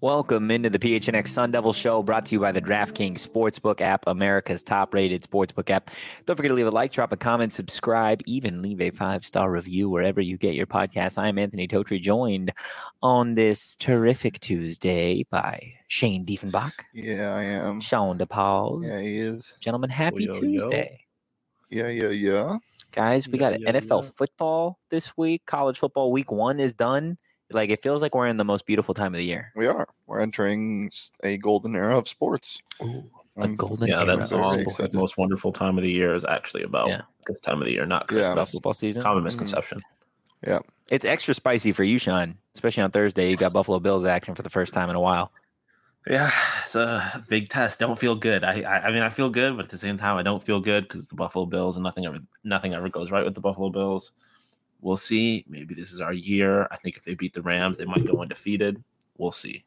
Welcome into the PHNX Sun Devil Show, brought to you by the DraftKings Sportsbook app, America's top-rated sportsbook app. Don't forget to leave a like, drop a comment, subscribe, even leave a 5-star review wherever you get your podcasts. I am Anthony Totri, joined on this terrific Tuesday by Shane Diefenbach. Yeah, I am. Sean DePaul. Yeah, he is. Gentlemen, happy Tuesday. Yeah. Guys, we got NFL football this week. College football week 1 is done. Like, it feels like we're in the most beautiful time of the year. We are. We're entering a golden era of sports. Ooh, a golden era. That's the most wonderful time of the year is actually about this time of the year, not Christmas. Football season. Common misconception. Yeah. It's extra spicy for you, Sean, especially on Thursday. You got Buffalo Bills action for the first time in a while. Yeah, it's a big test. Don't feel good. I mean, I feel good, but at the same time, I don't feel good because the Buffalo Bills and nothing ever goes right with the Buffalo Bills. We'll see. Maybe this is our year. I think if they beat the Rams, they might go undefeated. We'll see.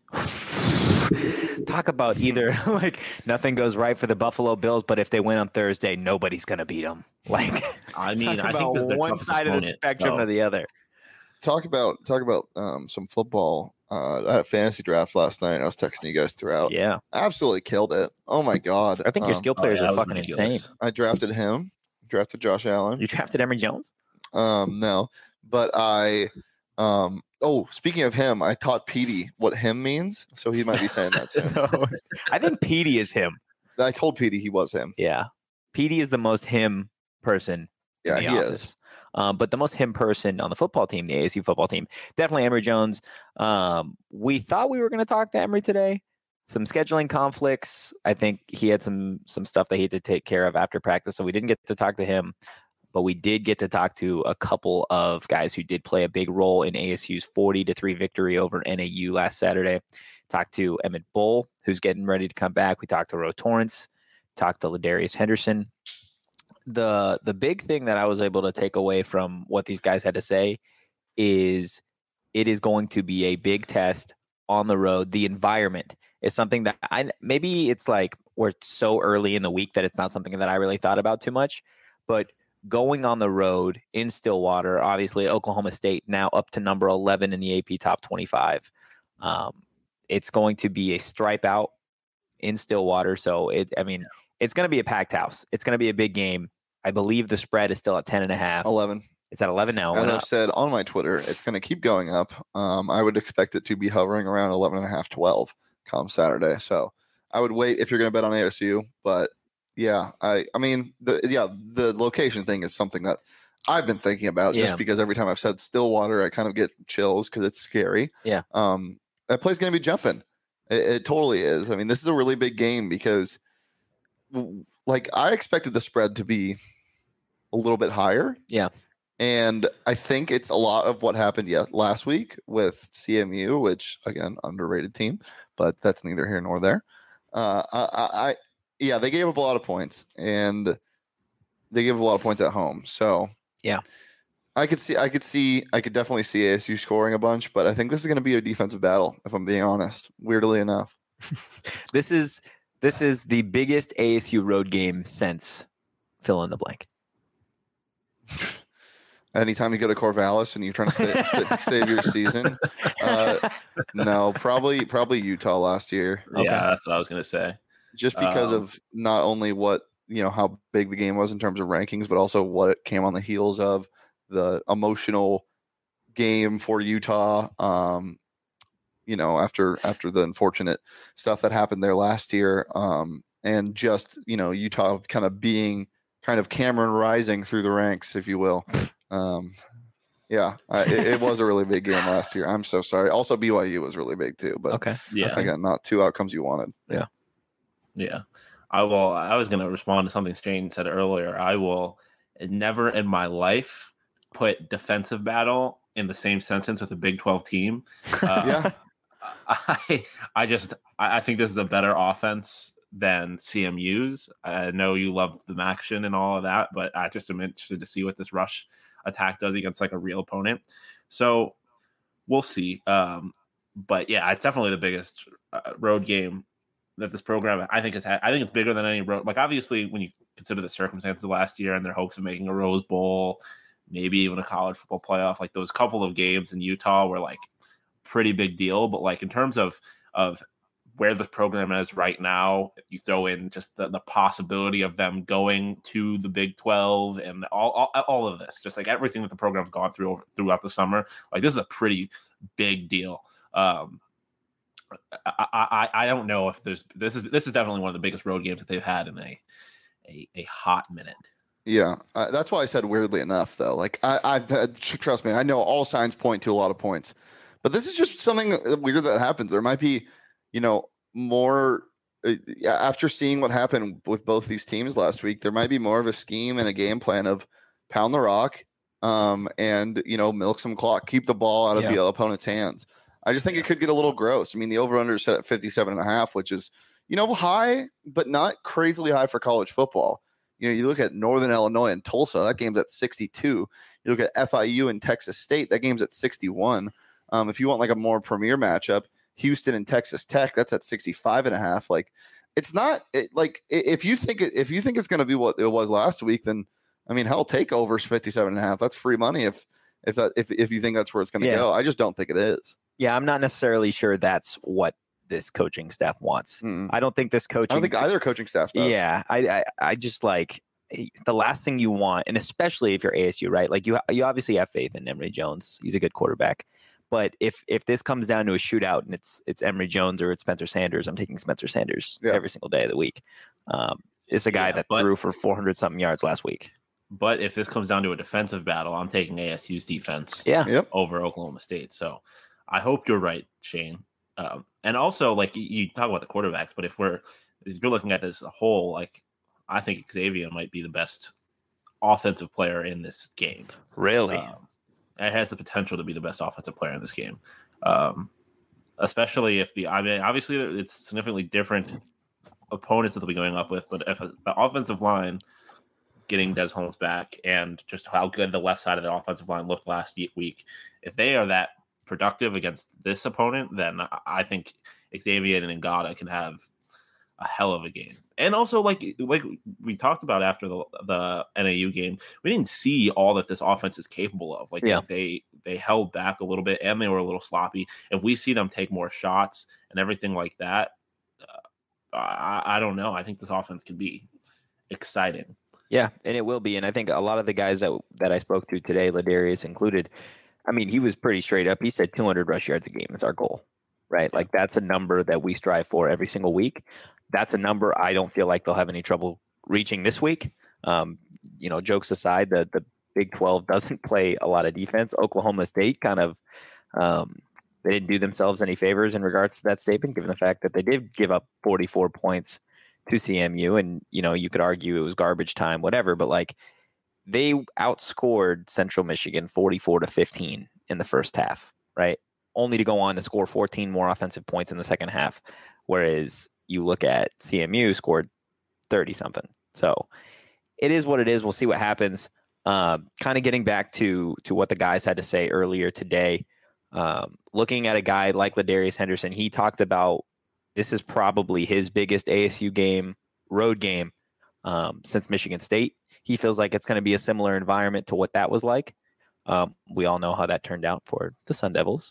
Talk about either like nothing goes right for the Buffalo Bills, but if they win on Thursday, nobody's gonna beat them. Like, I mean, I think this is one side of the spectrum or the other. Talk about some football. I had a fantasy draft last night. I was texting you guys throughout. Yeah, absolutely killed it. Oh my god! I think your skill players are fucking insane. I drafted him. Drafted Josh Allen. You drafted Emory Jones? No, but I. Speaking of him, I taught Petey what him means, so he might be saying that's him. I think Petey is him. I told Petey he was him. Yeah, Petey is the most him person. Yeah, he office. Is. But the most him person on the football team, the ASU football team, definitely Emory Jones. We thought we were going to talk to Emory today. Some scheduling conflicts. I think he had some stuff that he had to take care of after practice, so we didn't get to talk to him. But we did get to talk to a couple of guys who did play a big role in ASU's 40-3 victory over NAU last Saturday. Talked to Emmett Bull, who's getting ready to come back. We talked to Ro Torrance. Talked to Ladarius Henderson. The big thing that I was able to take away from what these guys had to say is it is going to be a big test on the road. The environment is something that maybe it's like we're so early in the week that it's not something that I really thought about too much, but going on the road in Stillwater, obviously Oklahoma State now up to number 11 in the AP top 25. It's going to be a stripe out in Stillwater. So it's going to be a packed house. It's going to be a big game. I believe the spread is still at 10.5. 11. It's at 11 now. As I've said on my Twitter, it's going to keep going up. I would expect it to be hovering around 11.5, 12 come Saturday. So I would wait if you're going to bet on ASU, but yeah, I mean, the location thing is something that I've been thinking about just because every time I've said Stillwater, I kind of get chills because it's scary. Yeah. That play's going to be jumping. It totally is. I mean, this is a really big game because, like, I expected the spread to be a little bit higher. Yeah. And I think it's a lot of what happened last week with CMU, which, again, underrated team, but that's neither here nor there. Yeah, they gave up a lot of points, and they gave up a lot of points at home. So yeah, I could definitely see ASU scoring a bunch, but I think this is going to be a defensive battle, if I'm being honest. Weirdly enough, this is the biggest ASU road game since fill in the blank. Anytime you go to Corvallis and you're trying to save your season, no, probably Utah last year. Okay. Yeah, that's what I was going to say. Just because of not only how big the game was in terms of rankings, but also what it came on the heels of, the emotional game for Utah. After the unfortunate stuff that happened there last year, and just Utah kind of Cameron rising through the ranks, if you will. It was a really big game last year. I'm so sorry. Also, BYU was really big too. But okay, again, not two outcomes you wanted. Yeah. I was going to respond to something Shane said earlier. I will never in my life put defensive battle in the same sentence with a Big 12 team. I think this is a better offense than CMU's. I know you love the action and all of that, but I just am interested to see what this rush attack does against like a real opponent. So we'll see. But yeah, it's definitely the biggest road game that this program, I think it's bigger than any road. Like, obviously, when you consider the circumstances of last year and their hopes of making a Rose Bowl, maybe even a college football playoff, like those couple of games in Utah were like pretty big deal. But like in terms of of where the program is right now. If you throw in just the possibility of them going to the Big 12 and all of this, just like everything that the program's gone throughout the summer, like this is a pretty big deal. I don't know if this is definitely one of the biggest road games that they've had in a hot minute. Yeah, that's why I said weirdly enough, though. Like, I trust me, I know all signs point to a lot of points, but this is just something weird that happens. There might be, more after seeing what happened with both these teams last week. There might be more of a scheme and a game plan of pound the rock, and milk some clock, keep the ball out of the opponent's hands. I just think it could get a little gross. I mean, the over/under is set at 57.5, which is high, but not crazily high for college football. You look at Northern Illinois and Tulsa, that game's at 62. You look at FIU and Texas State, that game's at 61. If you want like a more premier matchup, Houston and Texas Tech, that's at 65.5. Like, it's not if you think it's going to be what it was last week, then I mean, hell, take overs 57.5. That's free money if you think that's where it's going to go. I just don't think it is. Yeah, I'm not necessarily sure that's what this coaching staff wants. I don't think this coaching. I don't think either coaching staff does. Yeah, I just like the last thing you want, and especially if you're ASU, right? Like you obviously have faith in Emory Jones. He's a good quarterback. But if this comes down to a shootout and it's Emory Jones or it's Spencer Sanders, I'm taking Spencer Sanders every single day of the week. It's a guy that threw for 400-something yards last week. But if this comes down to a defensive battle, I'm taking ASU's defense over Oklahoma State. So I hope you're right, Shane. And also, like you talk about the quarterbacks, but if you're looking at this as a whole, like I think Xavier might be the best offensive player in this game. Really? It has the potential to be the best offensive player in this game, especially if obviously it's significantly different opponents that they'll be going up with, but if the offensive line getting Des Holmes back and just how good the left side of the offensive line looked last week, if they are that productive against this opponent, then I think Xavier and Ngata can have a hell of a game. And also, like we talked about after the NAU game, we didn't see all that this offense is capable of. Like they held back a little bit and they were a little sloppy. If we see them take more shots and everything like that, I don't know. I think this offense can be exciting. Yeah, and it will be. And I think a lot of the guys that I spoke to today, Ladarius included, I mean, he was pretty straight up. He said 200 rush yards a game is our goal, right? Like that's a number that we strive for every single week. That's a number I don't feel like they'll have any trouble reaching this week. Jokes aside, the Big 12 doesn't play a lot of defense. Oklahoma State kind of they didn't do themselves any favors in regards to that statement, given the fact that they did give up 44 points to CMU. And, you could argue it was garbage time, whatever, but like they outscored Central Michigan 44-15 in the first half, right? Only to go on to score 14 more offensive points in the second half. Whereas you look at CMU scored 30 something. So it is what it is. We'll see what happens. Kind of getting back to what the guys had to say earlier today. Looking at a guy like Ladarius Henderson, he talked about this is probably his biggest ASU road game since Michigan State. He feels like it's going to be a similar environment to what that was like. We all know how that turned out for the Sun Devils.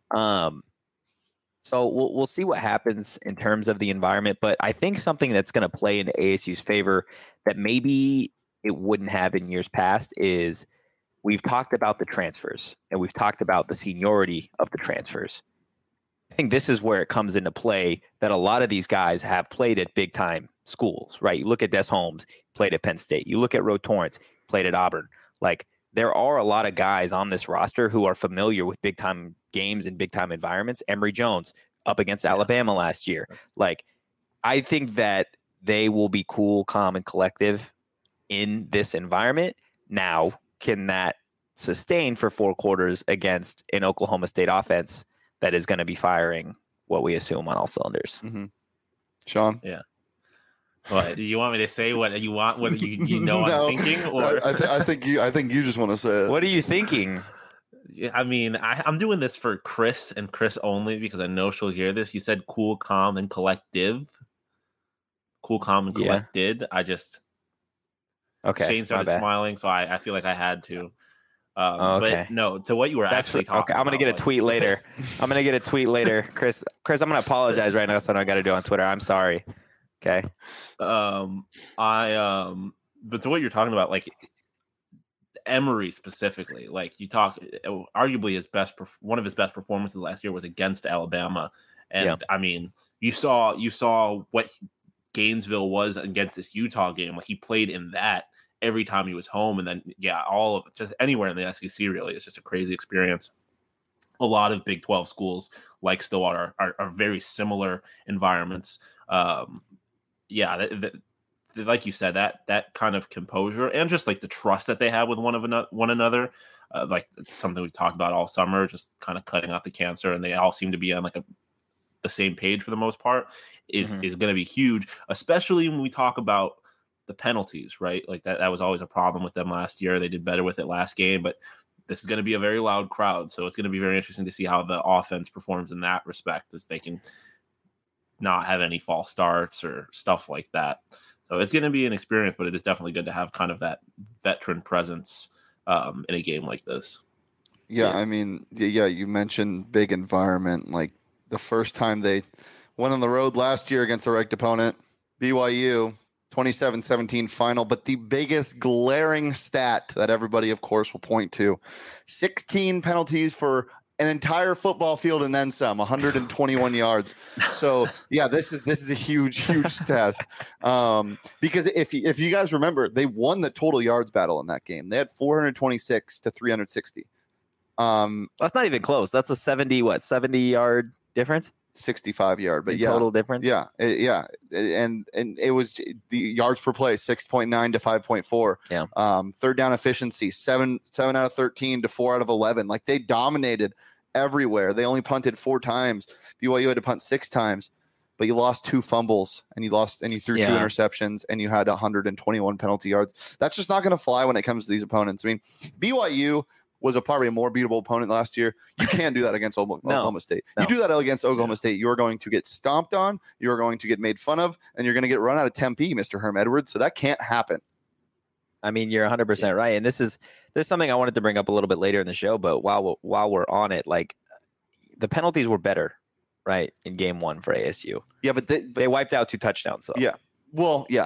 So we'll see what happens in terms of the environment. But I think something that's going to play into ASU's favor that maybe it wouldn't have in years past is we've talked about the transfers and we've talked about the seniority of the transfers. I think this is where it comes into play that a lot of these guys have played at big time schools, right? You look at Des Holmes, played at Penn State. You look at Ro Torrance, played at Auburn. Like there are a lot of guys on this roster who are familiar with big time games and big time environments. Emory Jones up against Alabama last year. Like I think that they will be cool, calm, and collective in this environment. Now, can that sustain for 4 quarters against an Oklahoma State offense that is going to be firing what we assume on all cylinders? Mm-hmm. Sean? Yeah. What, do you want me to say what you want? What you know no, I'm thinking? Or I think you just want to say it. What are you thinking? I mean, I'm doing this for Chris and Chris only because I know she'll hear this. You said cool, calm, and collective. Cool, calm, and collected. Okay. Shane started smiling, so I feel like I had to. Okay. But no, to what you were actually talking okay. I'm gonna get a tweet later. I'm gonna get a tweet later, Chris. Chris, I'm gonna apologize right now. That's what I got to do on Twitter. I'm sorry. Okay. But to what you're talking about, like Emory specifically, like you talk, arguably one of his best performances last year was against Alabama, and I mean, you saw what Gainesville was against this Utah game. Like he played in that every time he was home, and then all of just anywhere in the SEC really, it's just a crazy experience. A lot of Big 12 schools like Stillwater are very similar environments. Like you said, that kind of composure and just like the trust that they have with one another, like something we talked about all summer, just kind of cutting out the cancer, and they all seem to be on like the same page for the most part, is going to be huge, especially when we talk about the penalties, right? Like that was always a problem with them last year. They did better with it last game, but this is going to be a very loud crowd, so it's going to be very interesting to see how the offense performs in that respect, as they can not have any false starts or stuff like that. So it's going to be an experience, but it is definitely good to have kind of that veteran presence in a game like this. Yeah, I mean, you mentioned big environment. Like the first time they went on the road last year against a ranked opponent, BYU, 27-17 final. But the biggest glaring stat that everybody, of course, will point to, 16 penalties for an entire football field and then some, 121 yards. So yeah, this is a huge test. Because if you guys remember, they won the total yards battle in that game. They had 426 to 360. That's not even close. That's a 70 yard difference. 65 yard, but total difference. And it was the yards per play 6.9 to 5.4. Third down efficiency 7 out of 13 to 4 out of 11. Like they dominated everywhere. They only punted 4 times. BYU had to punt 6 times, but you lost 2 fumbles and you threw 2 interceptions and you had 121 penalty yards. That's just not going to fly when it comes to these opponents. I mean, BYU was probably a more beatable opponent last year. You can't do that against Oklahoma State. You do that against Oklahoma State, you are going to get stomped on, you are going to get made fun of, and you're going to get run out of Tempe, Mr. Herm Edwards. So that can't happen. I mean, you're 100% right. And there's something I wanted to bring up a little bit later in the show, but while we're on it, like the penalties were better, right, in game 1 for ASU. Yeah, but they wiped out 2 touchdowns. So. Yeah. Well, yeah.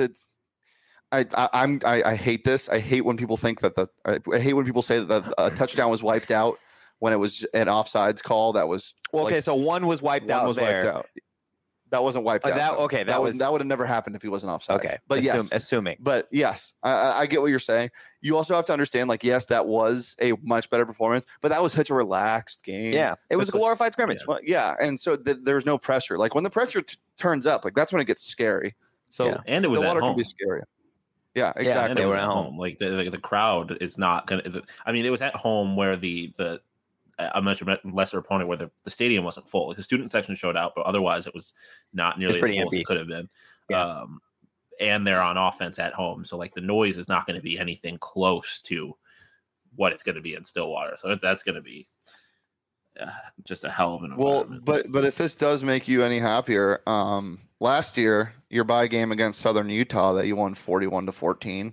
I hate this. I hate when people think that I hate when people say that a touchdown was wiped out when it was an offsides call. That was so one was wiped out. Wiped out. That wasn't wiped out. That would have never happened if he wasn't offside. Okay, but assuming. But yes, I get what you're saying. You also have to understand, like, yes, that was a much better performance, but that was such a relaxed game. Yeah, it was a glorified scrimmage. Well, and so there's no pressure. Like when the pressure turns up, like that's when it gets scary. So and it was at home. Can be scary. Yeah, exactly. And they were at home. Like the crowd is not going to. I mean, it was at home where a much lesser opponent where the stadium wasn't full. Like the student section showed out, but otherwise it was not nearly as full as it could have been. Yeah. And they're on offense at home, so like the noise is not going to be anything close to what it's going to be in Stillwater. So that's going to be just a hell of an environment. Well, but if this does make you any happier, last year your bye game against Southern Utah that you won 41-14,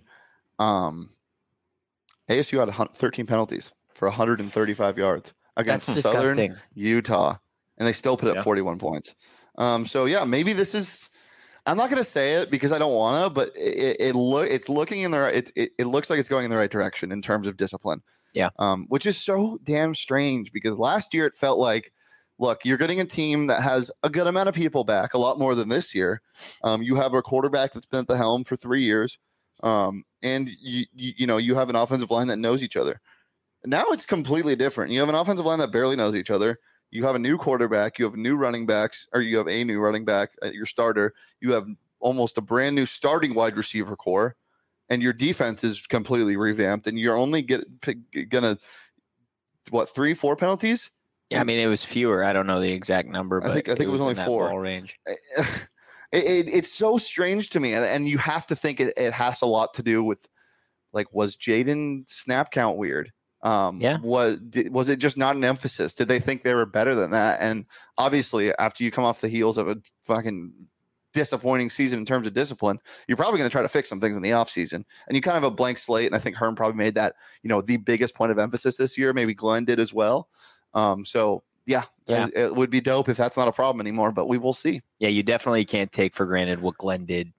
ASU had 13 penalties for 135 yards against Southern Utah, and they still put up 41 points. So yeah, maybe this is. I'm not going to say it because I don't want to, but it's looking in the right. It looks like it's going in the right direction in terms of discipline. Yeah. Which is so damn strange because last year it felt like, look, you're getting a team that has a good amount of people back, a lot more than this year. You have a quarterback that's been at the helm for 3 years, and you have an offensive line that knows each other. Now it's completely different. You have an offensive line that barely knows each other. You have a new quarterback. You have new running backs, or you have a new running back, your starter. You have almost a brand new starting wide receiver core, and your defense is completely revamped. And you're only gonna 3-4 penalties? Yeah, I mean it was fewer. I don't know the exact number, but I think it was only 4 ball range. It's so strange to me, and you have to think it has a lot to do with, like, was Jaden snap count weird? Was it just not an emphasis? Did they think they were better than that? And obviously, after you come off the heels of a fucking disappointing season in terms of discipline, you're probably going to try to fix some things in the offseason. And you kind of have a blank slate. And I think Herm probably made that, the biggest point of emphasis this year. Maybe Glenn did as well. It would be dope if that's not a problem anymore, but we will see. Yeah, you definitely can't take for granted what Glenn did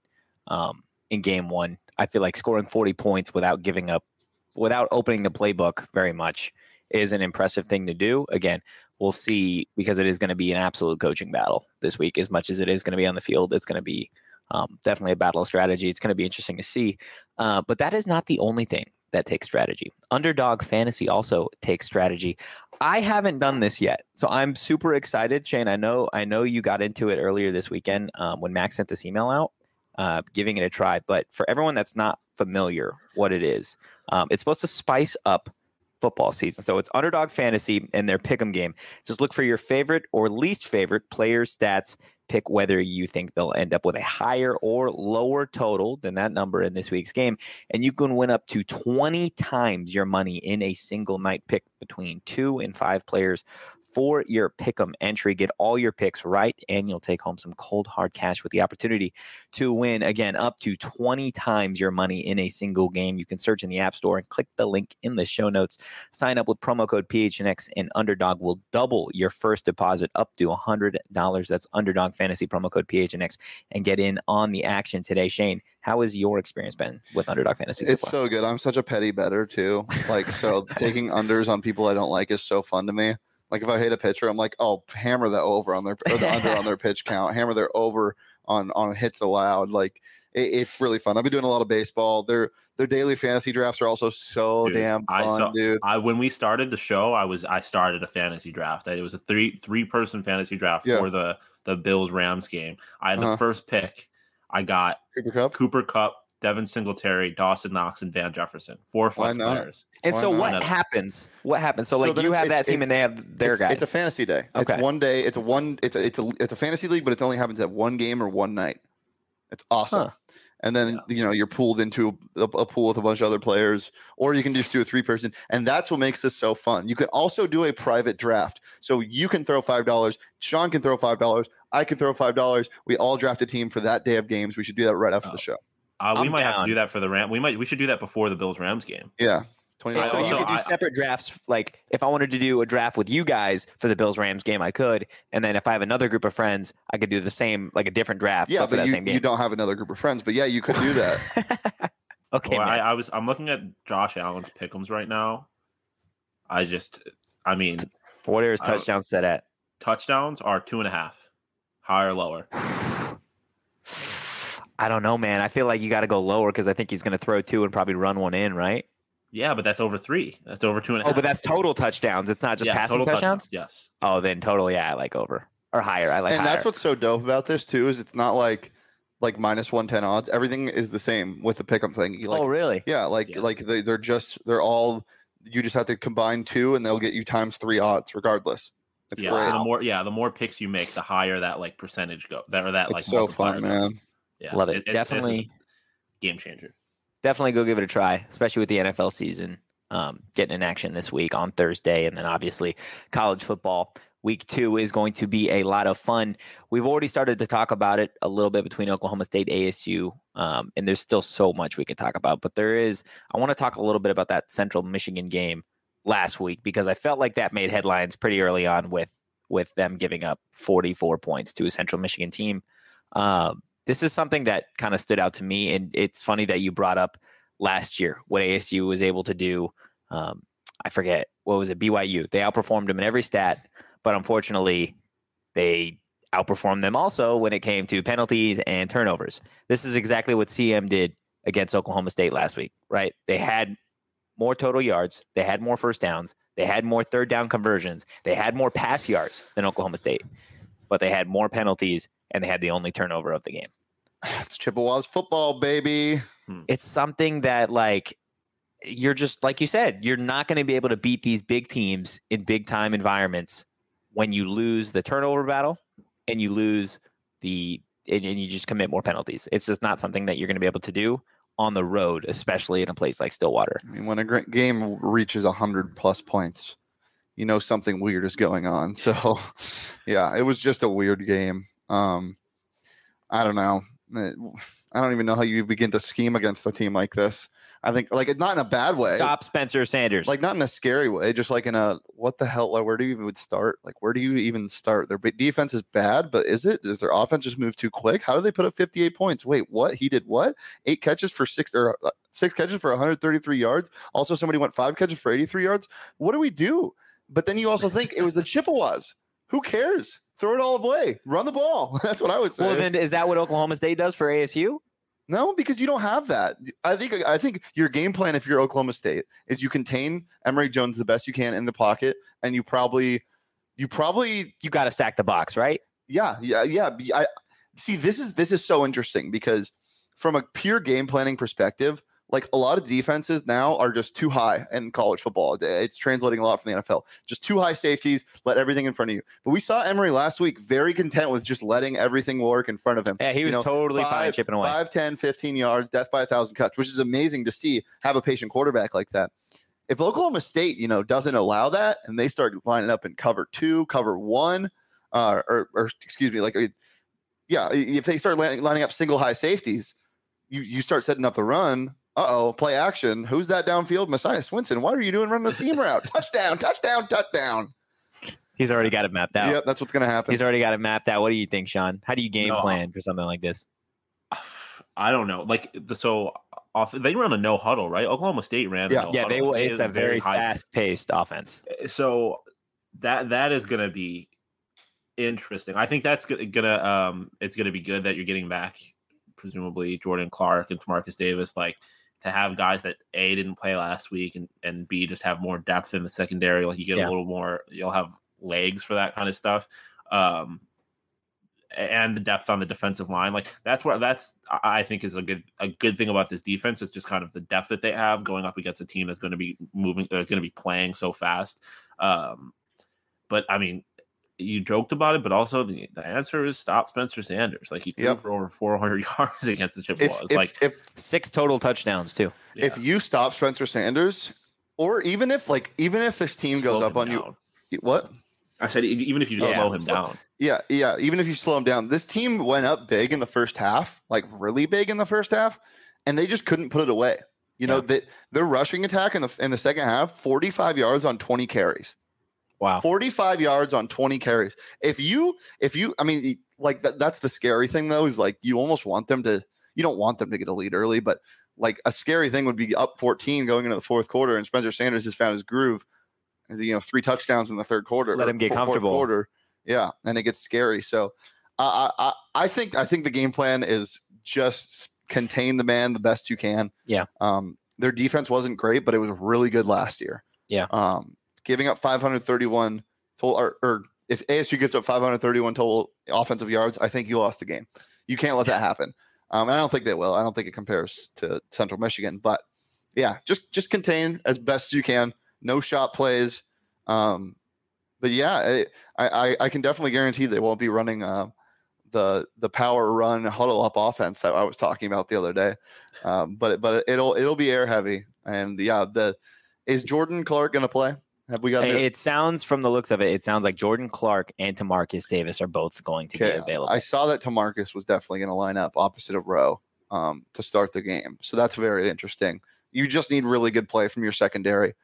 in game one. I feel like scoring 40 points without opening the playbook very much is an impressive thing to do. Again, we'll see, because it is going to be an absolute coaching battle this week. As much as it is going to be on the field, it's going to be definitely a battle of strategy. It's going to be interesting to see. But that is not the only thing that takes strategy. Underdog Fantasy also takes strategy. I haven't done this yet, so I'm super excited. Shane, I know you got into it earlier this weekend when Max sent this email out, giving it a try. But for everyone that's not familiar what it is, it's supposed to spice up football season. So it's Underdog Fantasy and their pick'em game. Just look for your favorite or least favorite players' stats. Pick whether you think they'll end up with a higher or lower total than that number in this week's game. And you can win up to 20 times your money in a single night pick between 2 and 5 players for your pick'em entry. Get all your picks right, and you'll take home some cold hard cash with the opportunity to win, again, up to 20 times your money in a single game. You can search in the App Store and click the link in the show notes. Sign up with promo code PHNX, and Underdog will double your first deposit up to $100. That's Underdog Fantasy, promo code PHNX, and get in on the action today. Shane, how has your experience been with Underdog Fantasy? It's so good. I'm such a petty bettor too. So taking unders on people I don't like is so fun to me. Like if I hit a pitcher, I'm like, oh, hammer the over on their or the under on their pitch count, hammer their over on hits allowed. It's really fun. I've been doing a lot of baseball. Their daily fantasy drafts are also so damn fun, dude. When we started the show, I started a fantasy draft. It was a three person fantasy draft for the Bills Rams game. I had the first pick. I got Cooper Kupp, Devin Singletary, Dawson Knox, and Van Jefferson. 4 flex players. And so what happens? What happens? So you have that team and they have their guys. It's a fantasy day. Okay. It's one day. It's a fantasy league, but it only happens at one game or one night. It's awesome. And then you're pooled into a pool with a bunch of other players, or you can just do a 3-person, and that's what makes this so fun. You can also do a private draft, so you can throw $5. Sean can throw $5. I can throw $5. We all draft a team for that day of games. We should do that right after the show. We might have to do that for the Rams. We should do that before the Bills Rams game. Yeah. So you could do separate drafts. Like if I wanted to do a draft with you guys for the Bills Rams game, I could. And then if I have another group of friends, I could do the same, like a different draft. Yeah, for that same game. You don't have another group of friends, but yeah, you could do that. Okay. Well, I'm looking at Josh Allen's pick'ems right now. What are his touchdowns set at? Touchdowns are 2.5, higher or lower. I don't know, man. I feel like you got to go lower because I think he's going to throw 2 and probably run 1 in, right? Yeah, but that's over 3. That's over 2.5. Oh, but that's total touchdowns. It's not just passing touchdowns? Yes. Oh, then totally, I like over or higher. I like and higher. That's what's so dope about this too is it's not like minus 110 odds. Everything is the same with the pick'em thing. Oh, really? Yeah, they're all. You just have to combine 2, and they'll get you times 3 odds regardless. It's great. So the more picks you make, the higher that percentage go. It's so fun, man. Yeah, love it. Definitely game changer. Definitely go give it a try, especially with the NFL season getting in action this week on Thursday. And then obviously college football week 2 is going to be a lot of fun. We've already started to talk about it a little bit between Oklahoma State, ASU, and there's still so much we can talk about. But I want to talk a little bit about that Central Michigan game last week because I felt like that made headlines pretty early on with them giving up 44 points to a Central Michigan team. This is something that kind of stood out to me, and it's funny that you brought up last year what ASU was able to do. I forget, what was it, BYU. They outperformed them in every stat, but unfortunately, they outperformed them also when it came to penalties and turnovers. This is exactly what CM did against Oklahoma State last week, right? They had more total yards. They had more first downs. They had more third down conversions. They had more pass yards than Oklahoma State, but they had more penalties, and they had the only turnover of the game. It's Chippewa's football, baby. It's something that, you're just, like you said, you're not going to be able to beat these big teams in big-time environments when you lose the turnover battle and you lose and you just commit more penalties. It's just not something that you're going to be able to do on the road, especially in a place like Stillwater. I mean, when a great game reaches 100+ points, something weird is going on. So, yeah, it was just a weird game. I don't know. I don't even know how you begin to scheme against a team like this. I think like not in a bad way. Stop Spencer Sanders. Like not in a scary way, just like in a what the hell? Like, where do you even start? Like where do you even start? Their defense is bad, but is it? Does their offense just move too quick? How do they put up 58 points? Wait, what? He did what? 8 catches for 6 catches for 133 yards. Also, somebody went 5 catches for 83 yards. What do we do? But then you also think it was the Chippewas. Who cares? Throw it all away. Run the ball. That's what I would say. Well, then is that what Oklahoma State does for ASU? No, because you don't have that. I think your game plan, if you're Oklahoma State, is you contain Emory Jones the best you can in the pocket, and you probably got to stack the box, right? Yeah. I see. This is so interesting because from a pure game planning perspective, like a lot of defenses now are just too high in college football. It's translating a lot from the NFL. Just too high safeties, let everything in front of you. But we saw Emory last week very content with just letting everything work in front of him. Yeah, he was totally fine chipping away. 5, 10, 15 yards, death by 1,000 cuts, which is amazing to see, have a patient quarterback like that. If Oklahoma State, doesn't allow that and they start lining up in cover 2, cover 1, or excuse me, if they start lining up single high safeties, you start setting up the run. Play action. Who's that downfield? Messiah Swinson. What are you doing running the seam route? Touchdown. He's already got it mapped out. Yep, that's what's going to happen. He's already got it mapped out. What do you think, Sean? How do you game plan for something like this? I don't know. They run a no huddle, right? Oklahoma State ran a no huddle. It's a very fast-paced offense. So that is going to be interesting. I think that's it's going to be good that you're getting back presumably Jordan Clark and Tamarcus Davis, like to have guys that A, didn't play last week and B, just have more depth in the secondary. Like you get a little more, you'll have legs for that kind of stuff. And the depth on the defensive line. Like I think is a good thing about this defense. Is just kind of the depth that they have going up against a team that's going to be moving, that's going to be playing so fast. But I mean, you joked about it, but also the answer is stop Spencer Sanders. Like he threw for over 400 yards against the Chippewas. If 6 total touchdowns too. Yeah. If you stop Spencer Sanders, or even if this team goes up on you, what? I said even if you just slow him down. Yeah. Even if you slow him down, this team went up big in the first half, like really big in the first half, and they just couldn't put it away. Their rushing attack in the second half, 45 yards on 20 carries. Wow. 45 yards on 20 carries. If you, I mean, like that's the scary thing though, is like you almost want them to, you don't want them to get a lead early, but like a scary thing would be up 14 going into the fourth quarter and Spencer Sanders has found his groove. 3 touchdowns in the third quarter. Let him get comfortable. Quarter. Yeah. And it gets scary. So I think the game plan is just contain the man the best you can. Yeah. Their defense wasn't great, but it was really good last year. Yeah. Giving up 531 total, or if ASU gives up 531 total offensive yards, I think you lost the game. You can't let that happen. And I don't think they will. I don't think it compares to Central Michigan, but yeah, just contain as best as you can. No shot plays. But yeah, I can definitely guarantee they won't be running the power run huddle up offense that I was talking about the other day. But it'll be air heavy. And yeah, is Jordan Clark going to play? Have we got it? Sounds from the looks of it, it sounds like Jordan Clark and Tamarcus Davis are both going to be available. I saw that Tamarcus was definitely going to line up opposite of Rowe to start the game. So that's very interesting. You just need really good play from your secondary.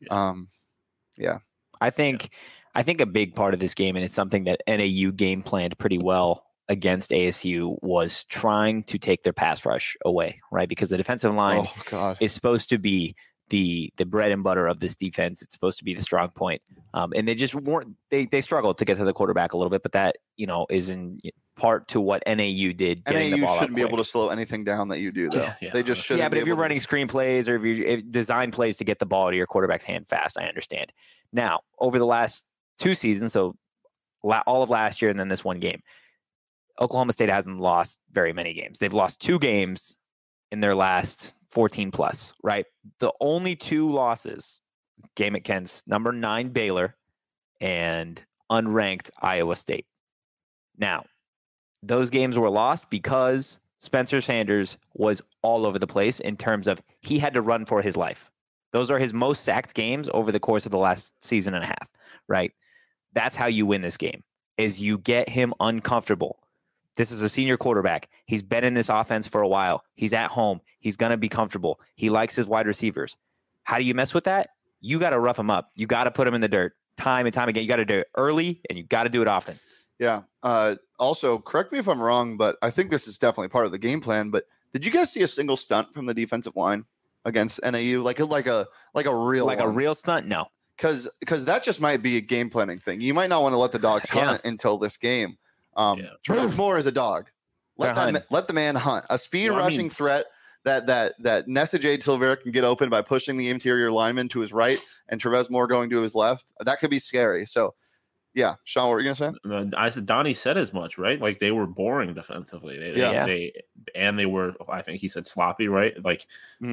Yeah. I think a big part of this game, and it's something that NAU game planned pretty well against ASU, was trying to take their pass rush away, right? Because the defensive line is supposed to be the bread and butter of this defense. It's supposed to be the strong point. And they just weren't, they struggled to get to the quarterback a little bit, but that, is in part to what NAU did. NAU shouldn't be able to slow anything down that you do though. They just shouldn't. Yeah, but if you're running screenplays or if you design plays to get the ball to your quarterback's hand fast, I understand. Now, over the last 2 seasons, so all of last year and then this one game, Oklahoma State hasn't lost very many games. They've lost 2 games in their last 14 plus, right? The only 2 losses, game at Kent's number 9 Baylor and unranked Iowa State. Now, those games were lost because Spencer Sanders was all over the place in terms of he had to run for his life. Those are his most sacked games over the course of the last season and a half, right? That's how you win this game, is you get him uncomfortable. This is a senior quarterback. He's been in this offense for a while. He's at home. He's going to be comfortable. He likes his wide receivers. How do you mess with that? You got to rough him up. You got to put him in the dirt time and time again. You got to do it early, and you got to do it often. Yeah. Also, correct me if I'm wrong, but I think this is definitely part of the game plan. But did you guys see a single stunt from the defensive line against NAU? Like a real a real stunt? No. Because that just might be a game planning thing. You might not want to let the dogs hunt until this game. Travis Moore is a dog. Let the man hunt. A speed rushing threat that Nessa Jade Silvera can get open by pushing the interior lineman to his right and Travis Moore going to his left. That could be scary. So, yeah. Sean, what were you going to say? I said Donnie said as much, right? Like they were boring defensively. They were, I think he said sloppy, right? Like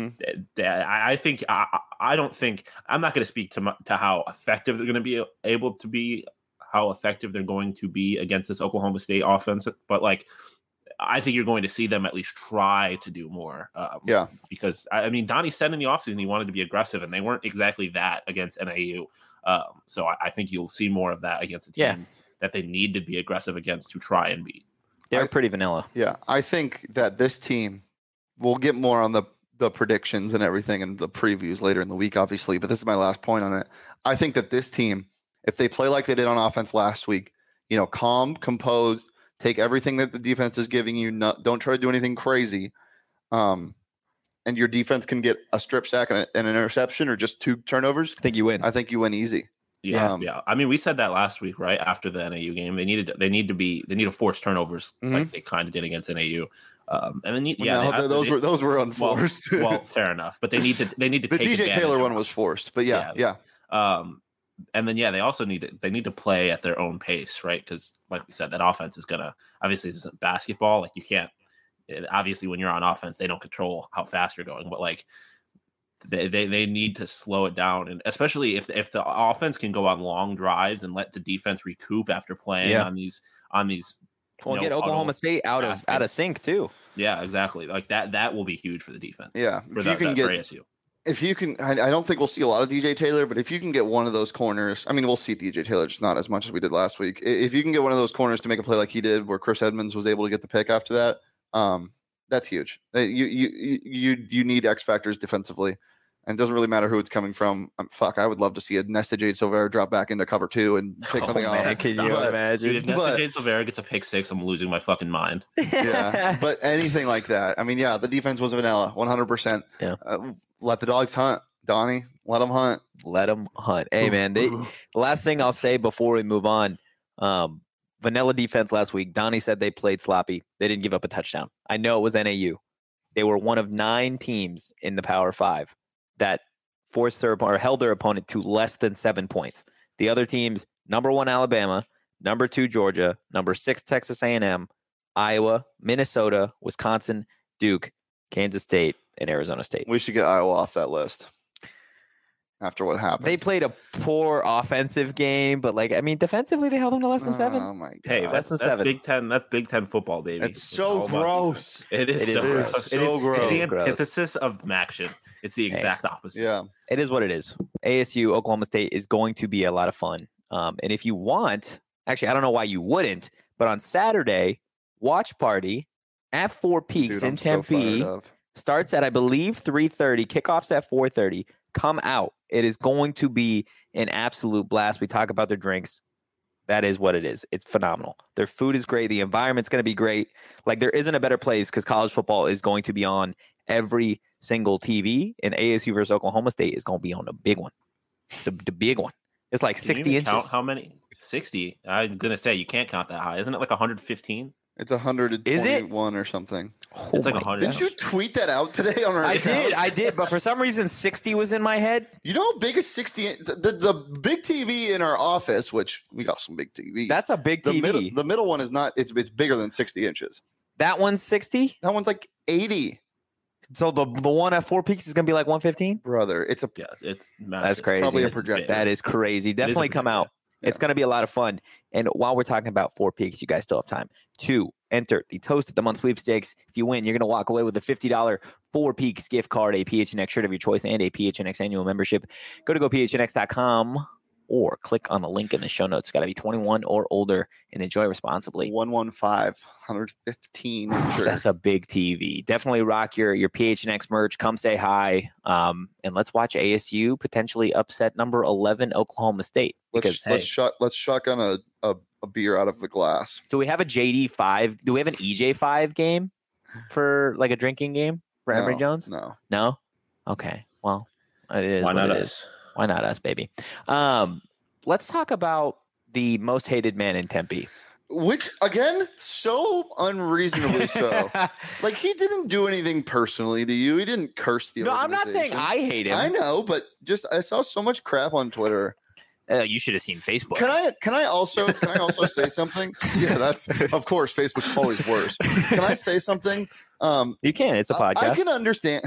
I think I don't think I'm not going to speak to how effective they're going to be able to be, how effective they're going to be against this Oklahoma State offense, but like I think you're going to see them at least try to do more. Because I mean, Donnie said in the offseason he wanted to be aggressive, and they weren't exactly that against NAU. So I think you'll see more of that against a team that they need to be aggressive against to try and beat. They're pretty vanilla. Yeah, I think that this team, we'll get more on the predictions and everything and the previews later in the week, obviously, but this is my last point on it. I think that this team, if they play like they did on offense last week, calm, composed, take everything that the defense is giving you, don't try to do anything crazy, and your defense can get a strip sack and an interception or just 2 turnovers, I think you win. I think you win easy. Yeah. I mean, we said that last week, right after the NAU game. They need to force turnovers like they kind of did against NAU. And then those were unforced. Well, fair enough. But they need to. The take DJ Taylor one was forced, but yeah. And then they also need to play at their own pace, right? Because like we said, that offense is gonna obviously this isn't basketball. Like you can't obviously when you're on offense, they don't control how fast you're going, but like. They need to slow it down, and especially if the offense can go on long drives and let the defense recoup after playing on these. Well, get Oklahoma State out of sync too. Yeah, exactly. Like that will be huge for the defense. Yeah, for ASU. If you can, I don't think we'll see a lot of DJ Taylor, but if you can get one of those corners, I mean, we'll see DJ Taylor, just not as much as we did last week. If you can get one of those corners to make a play like he did, where Chris Edmonds was able to get the pick after that, that's huge. You need X factors defensively, and it doesn't really matter who it's coming from. I would love to see a Nesta Jade Silvera drop back into cover 2 and take something off. Can you imagine? Dude, if Nesta Jade Silvera gets a pick 6, I'm losing my fucking mind. Yeah, but anything like that. I mean, yeah, the defense was vanilla, 100%. Yeah, let the dogs hunt, Donnie. Let them hunt. Let them hunt. Hey, man. The last thing I'll say before we move on. Vanilla defense last week. Donnie said they played sloppy. They didn't give up a touchdown. I know it was NAU. They were one of 9 teams in the Power 5 that held their opponent to less than 7 points. The other teams: number 1 Alabama, number 2 Georgia, number 6 Texas A&M, Iowa, Minnesota, Wisconsin, Duke, Kansas State, and Arizona State. We should get Iowa off that list. After what happened, they played a poor offensive game, but defensively they held them to less than 7. Oh my god! Hey, that's 7. Big Ten. That's Big Ten football, baby. It's so gross. It is so gross. It's the antithesis of MACtion. It's the exact opposite. Yeah, it is what it is. ASU Oklahoma State is going to be a lot of fun. And if you want, actually, I don't know why you wouldn't, but on Saturday, watch party at Four Peaks in Tempe starts at, I believe, 3:30. Kickoffs at 4:30. Come out. It is going to be an absolute blast. We talk about their drinks. That is what it is. It's phenomenal. Their food is great. The environment's going to be great. Like, there isn't a better place because college football is going to be on every single TV, and ASU versus Oklahoma State is going to be on the big one. The big one. It's like 60 inches. Count how many? 60. I was going to say, you can't count that high. Isn't it like 115? It's 121 or something. It's like 100. Didn't you tweet that out today on our account? I did, but for some reason 60 was in my head. You know how big is 60? The big TV in our office, which we got some big TVs. That's a big TV. The middle one is not. It's bigger than 60 inches. That one's 60? That one's like 80. So the one at Four Peaks is going to be like 115? Brother, it's massive. That's crazy. It's probably a projector. That is crazy. Definitely come out. Yeah. It's going to be a lot of fun. And while we're talking about Four Peaks, you guys still have time to enter the Toast of the Month sweepstakes. If you win, you're going to walk away with a $50 Four Peaks gift card, a PHNX shirt of your choice, and a PHNX annual membership. Go to gophnx.com or click on the link in the show notes. It's got to be 21 or older and enjoy responsibly. 115 incher. That's a big TV. Definitely rock your PHNX merch. Come say hi. And let's watch ASU potentially upset number 11 Oklahoma State. Because Let's shotgun a beer out of the glass. do we have a JD5? Do we have an EJ5 game for like a drinking game for Emory Jones? No. Okay. Well, it is Why what not it us? is. Why not us, baby? Let's talk about the most hated man in Tempe. Which, again, so unreasonably so. Like, he didn't do anything personally to you. He didn't curse the No, I'm not saying I hate him. I know, but just I saw so much crap on Twitter. You should have seen Facebook. Can I also say something? Yeah, that's of course Facebook's always worse. Can I say something? You can. It's a podcast. I can understand.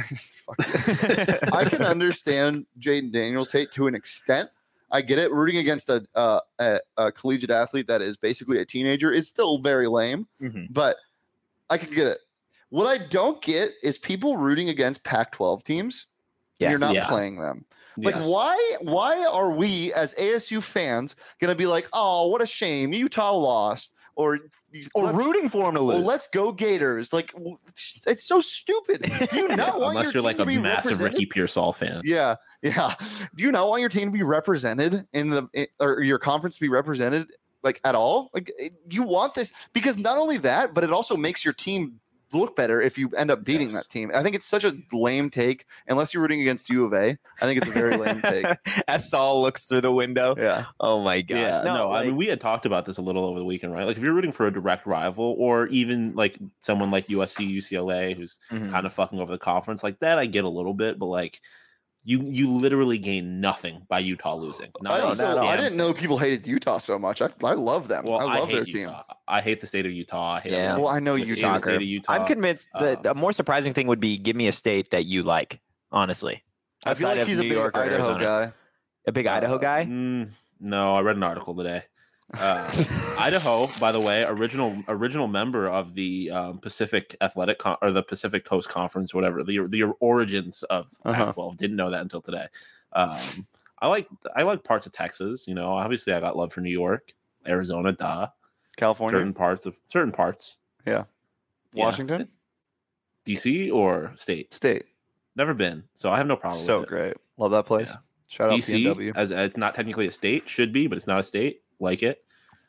I can understand Jayden Daniels' hate to an extent. I get it. Rooting against a collegiate athlete that is basically a teenager is still very lame, but I can get it. What I don't get is people rooting against Pac-12 teams. Yes. You're not playing them. Like, Yes. why are we as ASU fans gonna be like, oh, what a shame, Utah lost, or rooting for him to lose? Well, let's go Gators. Like, it's so stupid. Do you not want Unless your you're team like to a be massive represented? Ricky Pearsall fan. Yeah. Do you not want your team to be represented or your conference to be represented like at all? Like, you want this because not only that, but it also makes your team look better if you end up beating that team. I think it's such a lame take unless you're rooting against U of A. I think it's a very lame take. As Saul looks through the window. Yeah. Oh my gosh. Yeah, no, I mean, we had talked about this a little over the weekend, right? Like, if you're rooting for a direct rival, or even like someone like USC, UCLA, who's kind of fucking over the conference, like that, I get a little bit, but like, you literally gain nothing by Utah losing. I didn't know people hated Utah so much. I love them. Well, I love hate their Utah. team. I hate the state of Utah. I hate Well, I know you Utah. soccer. State of Utah. I'm convinced that a more surprising thing would be give me a state that you like, honestly. I feel Outside like of he's a New big York or Idaho Arizona. guy. A big Idaho guy? No, I read an article today. Idaho, by the way, original member of the Pacific Athletic or the Pacific Coast Conference, whatever the origins of Pac-12. Didn't know that until today. I like parts of Texas. You know, obviously I got love for New York, Arizona, California, certain parts. Yeah, Washington, DC or state. Never been, so I have no problem. So with it. great, love that place. Yeah. Shout out DC, PNW. as it's not technically a state, should be, but it's not a state. Like it.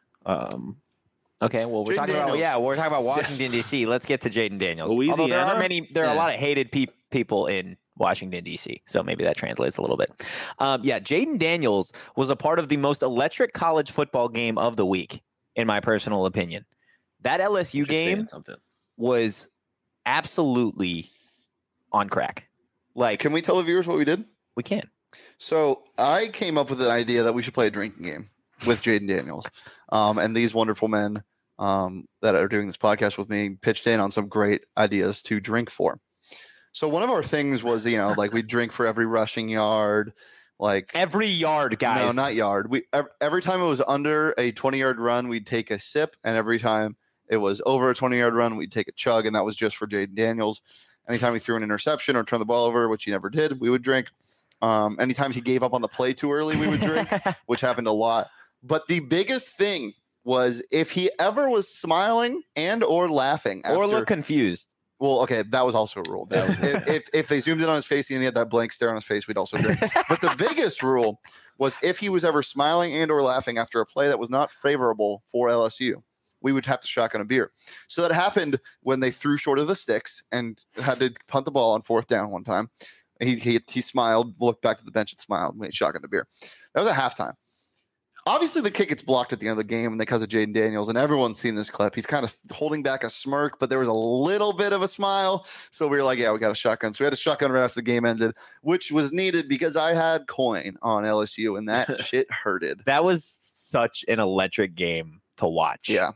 Okay, well, we're Jayden talking Daniels. we're talking about Washington D.C. Let's get to Jayden Daniels. Although Louisiana? there are a lot of hated people in Washington D.C., so maybe that translates a little bit. Jayden Daniels was a part of the most electric college football game of the week, in my personal opinion. That LSU game was absolutely on crack. Like, Can we tell the viewers what we did? we can. So I came up with an idea that we should play a drinking game with Jayden Daniels, and these wonderful men that are doing this podcast with me pitched in on some great ideas to drink for. So one of our things was, like we drink for every rushing yard, like Every yard, guys. no, not yard. We every time it was under a 20-yard run, we'd take a sip, and every time it was over a 20-yard run, we'd take a chug, and that was just for Jayden Daniels. Anytime he threw an interception or turned the ball over, which he never did, we would drink. Anytime he gave up on the play too early, we would drink, which happened a lot. But the biggest thing was if he ever was smiling and or laughing or look confused. Well, okay, that was also a rule. If they zoomed in on his face and he had that blank stare on his face, we'd also drink. But the biggest rule was if he was ever smiling and or laughing after a play that was not favorable for LSU, we would have to shotgun a beer. So that happened when they threw short of the sticks and had to punt the ball on fourth down one time. He smiled, looked back at the bench and smiled, made shotgun a beer. That was at halftime. Obviously, the kick gets blocked at the end of the game, and because of Jayden Daniels, and everyone's seen this clip. He's kind of holding back a smirk, but there was a little bit of a smile. So we were like, yeah, we got a shotgun. So we had a shotgun right after the game ended, which was needed because I had coin on LSU, and that shit hurted. That was such an electric game to watch. Yeah.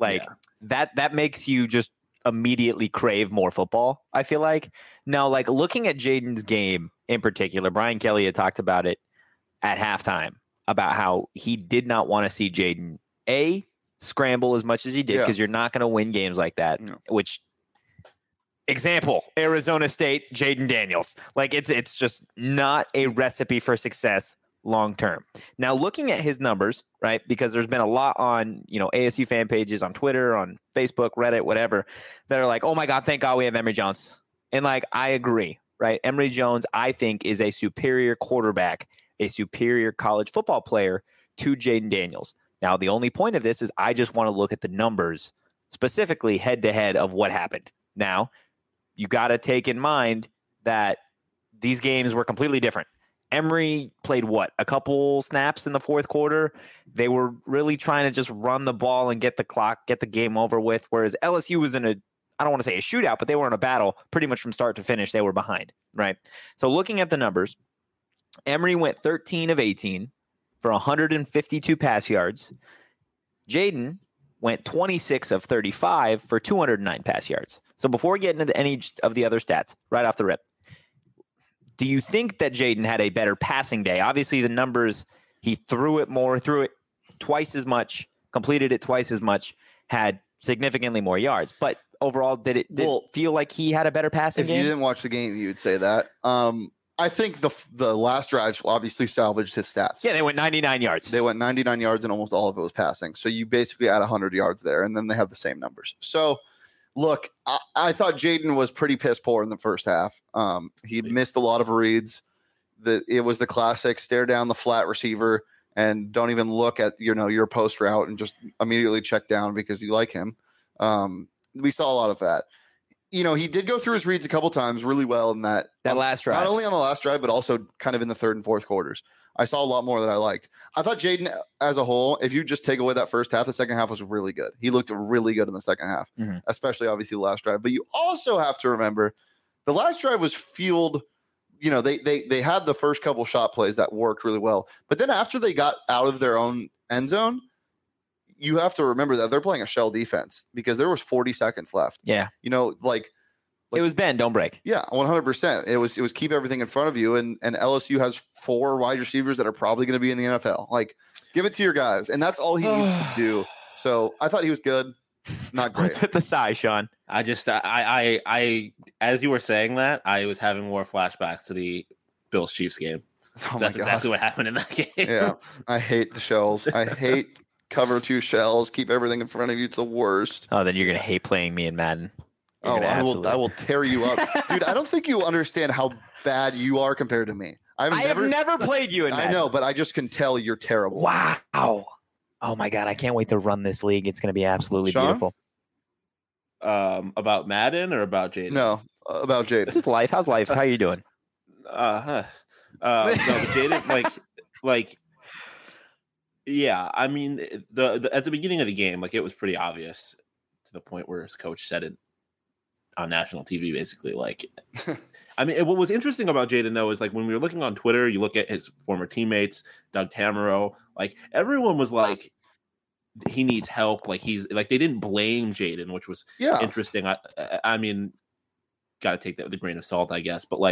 That makes you just immediately crave more football, I feel like. Now, like looking at Jayden's game in particular, Brian Kelly had talked about it at halftime about how he did not want to see Jayden scramble as much as he did because you're not going to win games like that. No. Which example, Arizona State, Jayden Daniels. Like it's just not a recipe for success long term. Now, looking at his numbers, right, because there's been a lot on, ASU fan pages, on Twitter, on Facebook, Reddit, whatever, that are like, oh my God, thank God we have Emory Jones. And like, I agree, right? Emory Jones, I think, is a superior quarterback, a superior college football player to Jayden Daniels. Now, the only point of this is I just want to look at the numbers, specifically head to head of what happened. Now, you got to take in mind that these games were completely different. Emory played a couple snaps in the fourth quarter. They were really trying to just run the ball and get the game over with. Whereas LSU was in I don't want to say a shootout, but they were in a battle pretty much from start to finish. They were behind, right? So looking at the numbers, Emory went 13 of 18 for 152 pass yards. Jayden went 26 of 35 for 209 pass yards. So before getting into any of the other stats, right off the rip, do you think that Jayden had a better passing day? Obviously, the numbers, he threw it twice as much, completed it twice as much, had significantly more yards. But overall, did it feel like he had a better passing game? If you didn't watch the game, you would say that. I think the last drives obviously salvaged his stats. Yeah, they went 99 yards. They went 99 yards, and almost all of it was passing. So you basically add 100 yards there, and then they have the same numbers. So, look, I thought Jayden was pretty piss poor in the first half. He missed a lot of reads. It was the classic stare down the flat receiver and don't even look at your post route and just immediately check down because you like him. We saw a lot of that. He did go through his reads a couple times really well in that last drive. Not only on the last drive, but also kind of in the third and fourth quarters. I saw a lot more that I liked. I thought Jayden as a whole, if you just take away that first half, the second half was really good. He looked really good in the second half, especially obviously the last drive. But you also have to remember the last drive was fueled. They had the first couple shot plays that worked really well. But then after they got out of their own end zone, you have to remember that they're playing a shell defense because there was 40 seconds left. Yeah. It was bend, don't break. Yeah, 100%. It was keep everything in front of you, and LSU has 4 wide receivers that are probably going to be in the NFL. Like, give it to your guys, and that's all he needs to do. So I thought he was good, not great. What's with the sigh, Sean? I just I as you were saying that, I was having more flashbacks to the Bills Chiefs game. Oh that's exactly what happened in that game. Yeah, I hate the shells. I hate cover 2 shells. Keep everything in front of you. It's the worst. Oh, then you're gonna hate playing me in Madden. I will tear you up. Dude, I don't think you understand how bad you are compared to me. I have never played you in Madden. I know, but I just can tell you're terrible. Wow. Oh my God. I can't wait to run this league. It's going to be absolutely beautiful. About Madden or about Jayden? No, about Jayden. This is life. How's life? How are you doing? No, Jayden, yeah, I mean, the at the beginning of the game, it was pretty obvious to the point where his coach said it on national TV, basically. I mean, what was interesting about Jayden, though, is when we were looking on Twitter, you look at his former teammates, Doug Tamaro, everyone was like, he needs help. They didn't blame Jayden, which was interesting. I mean, got to take that with a grain of salt, I guess. But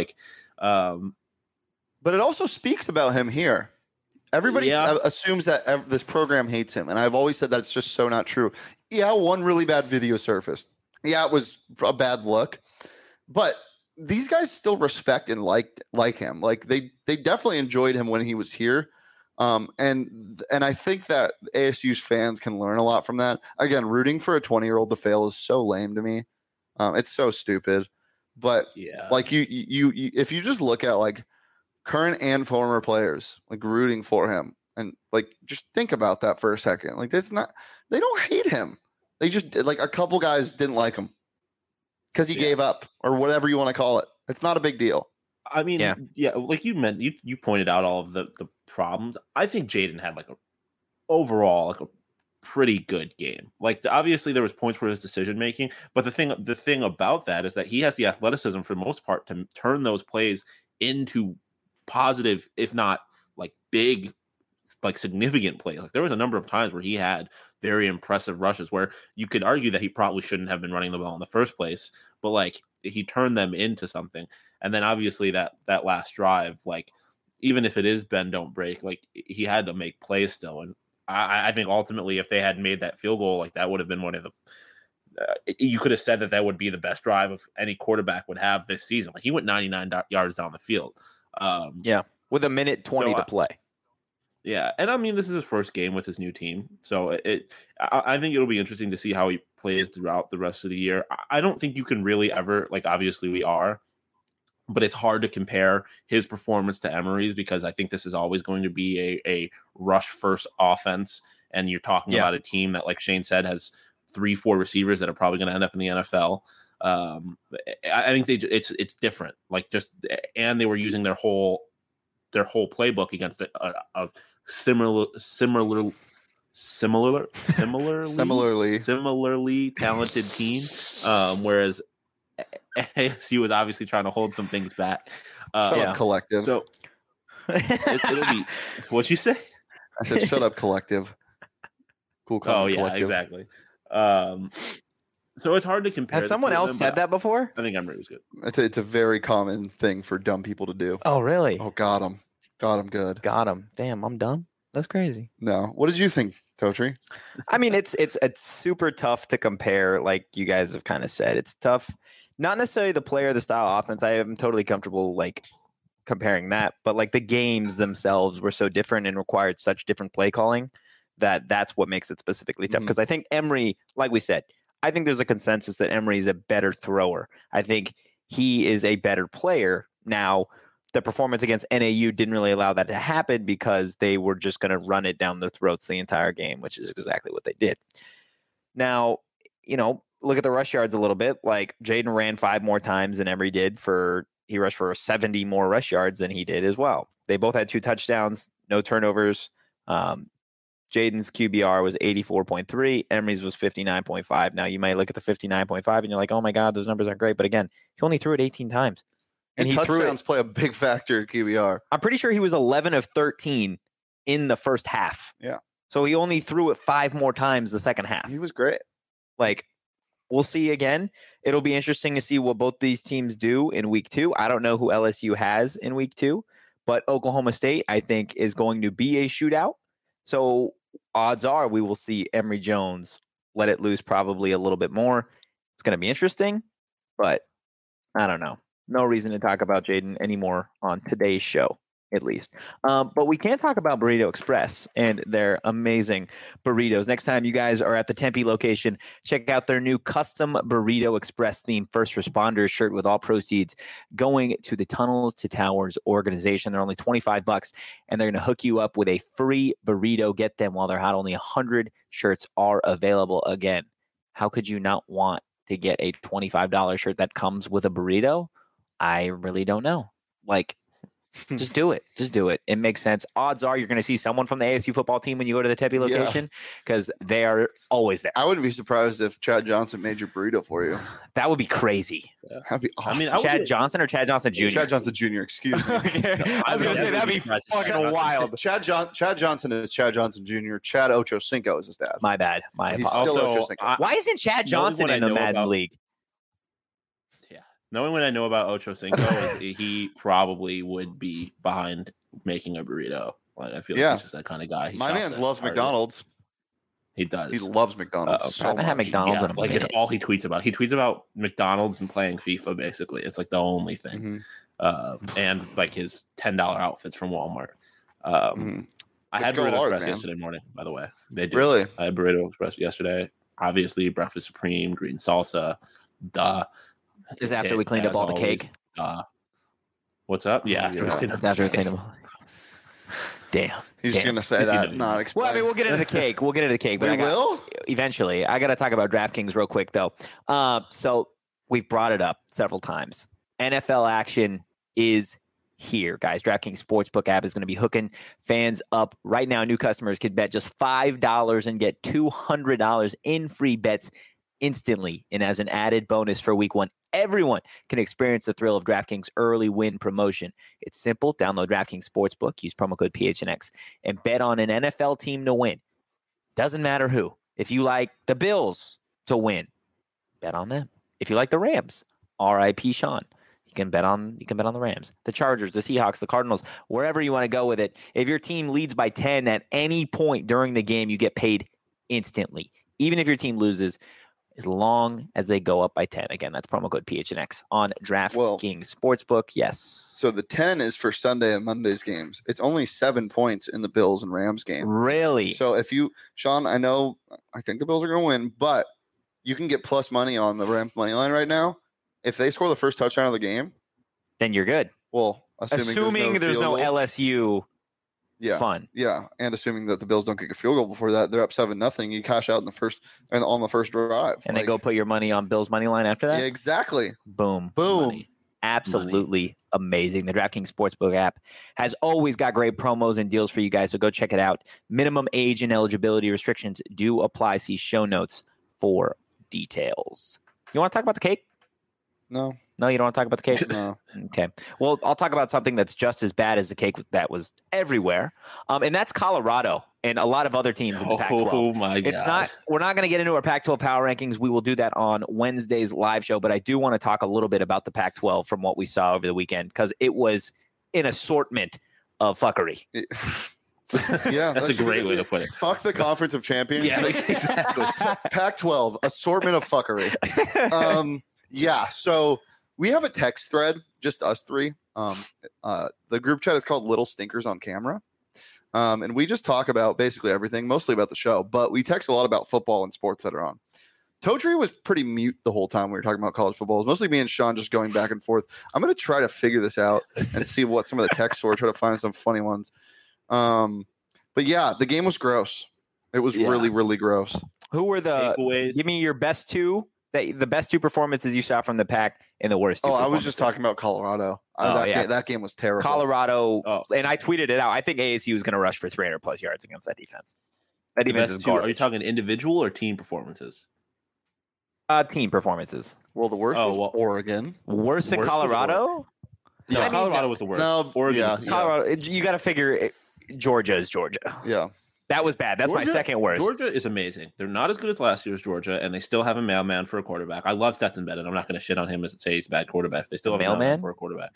but it also speaks about him here. Everybody assumes that this program hates him, and I've always said that's just so not true. Yeah, one really bad video surfaced. Yeah, it was a bad look, but these guys still respect and like him. They definitely enjoyed him when he was here, and I think that ASU's fans can learn a lot from that. Again, rooting for a 20-year-old to fail is so lame to me. It's so stupid. But yeah, you if you just look at current and former players rooting for him, and just think about that for a second. They don't hate him. They just a couple guys didn't like him because he gave up or whatever you want to call it. It's not a big deal. I mean, you pointed out all of the problems. I think Jayden had overall a pretty good game. Obviously there was points where his decision making, but the thing about that is that he has the athleticism for the most part to turn those plays into positive, if not big, significant plays. There was a number of times where he had very impressive rushes where you could argue that he probably shouldn't have been running the ball in the first place, but he turned them into something. And then obviously that last drive, even if it is bend don't break, he had to make plays still. And I think ultimately if they had made that field goal, that would have been one of the you could have said that would be the best drive of any quarterback would have this season. He went 99 yards down the field. With a minute 20 to play. Yeah, and I mean, this is his first game with his new team, so I think it'll be interesting to see how he plays throughout the rest of the year. I don't think you can really ever, like, obviously we are, but it's hard to compare his performance to Emery's because I think this is always going to be a rush first offense, and you're talking about a team that, like Shane said, has 3-4 receivers that are probably going to end up in the NFL. I think it's different, like and they were using their whole playbook against a similarly talented team, whereas ASU was obviously trying to hold some things back. Shut up, collective. So it'll be what'd you say? I said, shut up, collective. Cool. Oh yeah, collective. Exactly. So it's hard to compare. Has someone else said that before? I think Emery was good. It's a very common thing for dumb people to do. Oh really? Oh, got him good. Got him. Damn, I'm dumb. That's crazy. No. What did you think, Totri? I mean, it's super tough to compare. Like you guys have kind of said, it's tough. Not necessarily the player, the style offense. I am totally comfortable like comparing that, but like the games themselves were so different and required such different play calling that's what makes it specifically tough. Because I think Emery, like we said, I think there's a consensus that Emery is a better thrower. I think he is a better player. Now, the performance against NAU didn't really allow that to happen because they were just going to run it down their throats the entire game, which is exactly what they did. Now, look at the rush yards a little bit. Like Jaden ran 5 more times than Emery did. He rushed for 70 more rush yards than he did as well. They both had 2 touchdowns, no turnovers. Jaden's QBR was 84.3. Emery's was 59.5. Now, you might look at the 59.5 and you're like, oh my God, those numbers aren't great. But again, he only threw it 18 times. And touchdowns play a big factor in QBR. I'm pretty sure he was 11 of 13 in the first half. Yeah. So he only threw it 5 more times the second half. He was great. Like, we'll see again. It'll be interesting to see what both these teams do in week 2. I don't know who LSU has in week 2, but Oklahoma State, I think, is going to be a shootout. So odds are we will see Emery Jones let it loose probably a little bit more. It's going to be interesting, but I don't know. No reason to talk about Jaden anymore on today's show, at least. But we can talk about Burrito Express and their amazing burritos. Next time you guys are at the Tempe location, check out their new custom Burrito Express themed first responders shirt with all proceeds going to the Tunnels to Towers organization. They're only $25, and they're going to hook you up with a free burrito. Get them while they're hot. Only 100 shirts are available. Again, how could you not want to get a $25 shirt that comes with a burrito? I really don't know. Like, just do it. Just do it. It makes sense. Odds are you're going to see someone from the ASU football team when you go to the Tempe location because they are always there. I wouldn't be surprised if Chad Johnson made your burrito for you. That would be crazy. Yeah. That'd be awesome. I mean, Chad Johnson or Chad Johnson Jr.? Chad Johnson Jr., excuse me. Okay. I was going to say, that'd be fucking wild. Chad Johnson is Chad Johnson Jr. Chad Ochocinco is his dad. My bad. My He's apologies. still Ochocinco. Why isn't Chad Johnson in the Madden League? Knowing what I know about Ocho Cinco, he probably would be behind making a burrito. Like, I feel like he's just that kind of guy. My man loves McDonald's. He does. He loves McDonald's. I haven't had McDonald's in a like minute. It's all he tweets about. He tweets about McDonald's and playing FIFA. Basically, it's like the only thing. And like his $10 outfits from Walmart. I had Burrito Express yesterday morning. By the way, they do. Really? I had Burrito Express yesterday. Obviously, breakfast supreme, green salsa. Duh. Is after we cleaned up all the cake? What's up? Yeah. After we cleaned up. Damn. He's just going to say that, not explain. Well, I mean, we'll get into the cake. But we will? Eventually. I got to talk about DraftKings real quick, though. So we've brought it up several times. NFL action is here, guys. DraftKings Sportsbook app is going to be hooking fans up right now. New customers can bet just $5 and get $200 in free bets instantly. And as an added bonus for week 1, everyone can experience the thrill of DraftKings early win promotion. It's simple. Download DraftKings Sportsbook, use promo code PHNX, and bet on an NFL team to win. Doesn't matter who. If you like the Bills to win, bet on them. If you like the Rams, R.I.P. Sean, you can bet on the Rams, the Chargers, the Seahawks, the Cardinals, wherever you want to go with it. If your team leads by 10 at any point during the game, you get paid instantly. Even if your team loses, as long as they go up by 10. Again, that's promo code PHNX on DraftKings Sportsbook. Yes. So the 10 is for Sunday and Monday's games. It's only 7 points in the Bills and Rams game. Really? So if you, Sean, I think the Bills are going to win, but you can get plus money on the Rams money line right now. If they score the first touchdown of the game, then you're good. Well, assuming there's no LSU fun. Yeah, and assuming that the Bills don't kick a field goal before that, they're up 7-0. You cash out on the first drive, and then go put your money on Bills money line after that. Yeah, exactly. Boom. Money. Absolutely amazing. The DraftKings Sportsbook app has always got great promos and deals for you guys, so go check it out. Minimum age and eligibility restrictions do apply. See show notes for details. You want to talk about the cake? No, you don't want to talk about the cake? No. Okay. Well, I'll talk about something that's just as bad as the cake that was everywhere, and that's Colorado and a lot of other teams in the Pac-12. Oh my God! We're not going to get into our Pac-12 power rankings. We will do that on Wednesday's live show, but I do want to talk a little bit about the Pac-12 from what we saw over the weekend because it was an assortment of fuckery. Yeah, that's a great way to put it. Fuck the Conference of Champions. Yeah, exactly. Pac-12 assortment of fuckery. Yeah, so we have a text thread, just us three. The group chat is called Little Stinkers on Camera. And we just talk about basically everything, mostly about the show, but we text a lot about football and sports that are on. Totri was pretty mute the whole time we were talking about college football. It was mostly me and Sean just going back and forth. I'm going to try to figure this out and see what some of the texts were, try to find some funny ones. But yeah, the game was gross. It was really, really gross. Who were the takeaways? Give me your best two. The best two performances you saw from the Pac and the worst two I was just talking about Colorado. That game was terrible. Colorado, and I tweeted it out. I think ASU is going to rush for 300-plus yards against that defense. That defense is garbage. Are you talking individual or team performances? Team performances. Well, the worst was Oregon. Worse than Colorado? Yeah, Colorado was the worst. No, Oregon. Colorado. You got to figure Georgia is Georgia. Yeah. That was bad. That's my second worst. Georgia is amazing. They're not as good as last year's Georgia, and they still have a mailman for a quarterback. I love Stetson Bennett. I'm not going to shit on him as say he's a bad quarterback. They still have a mailman for a quarterback.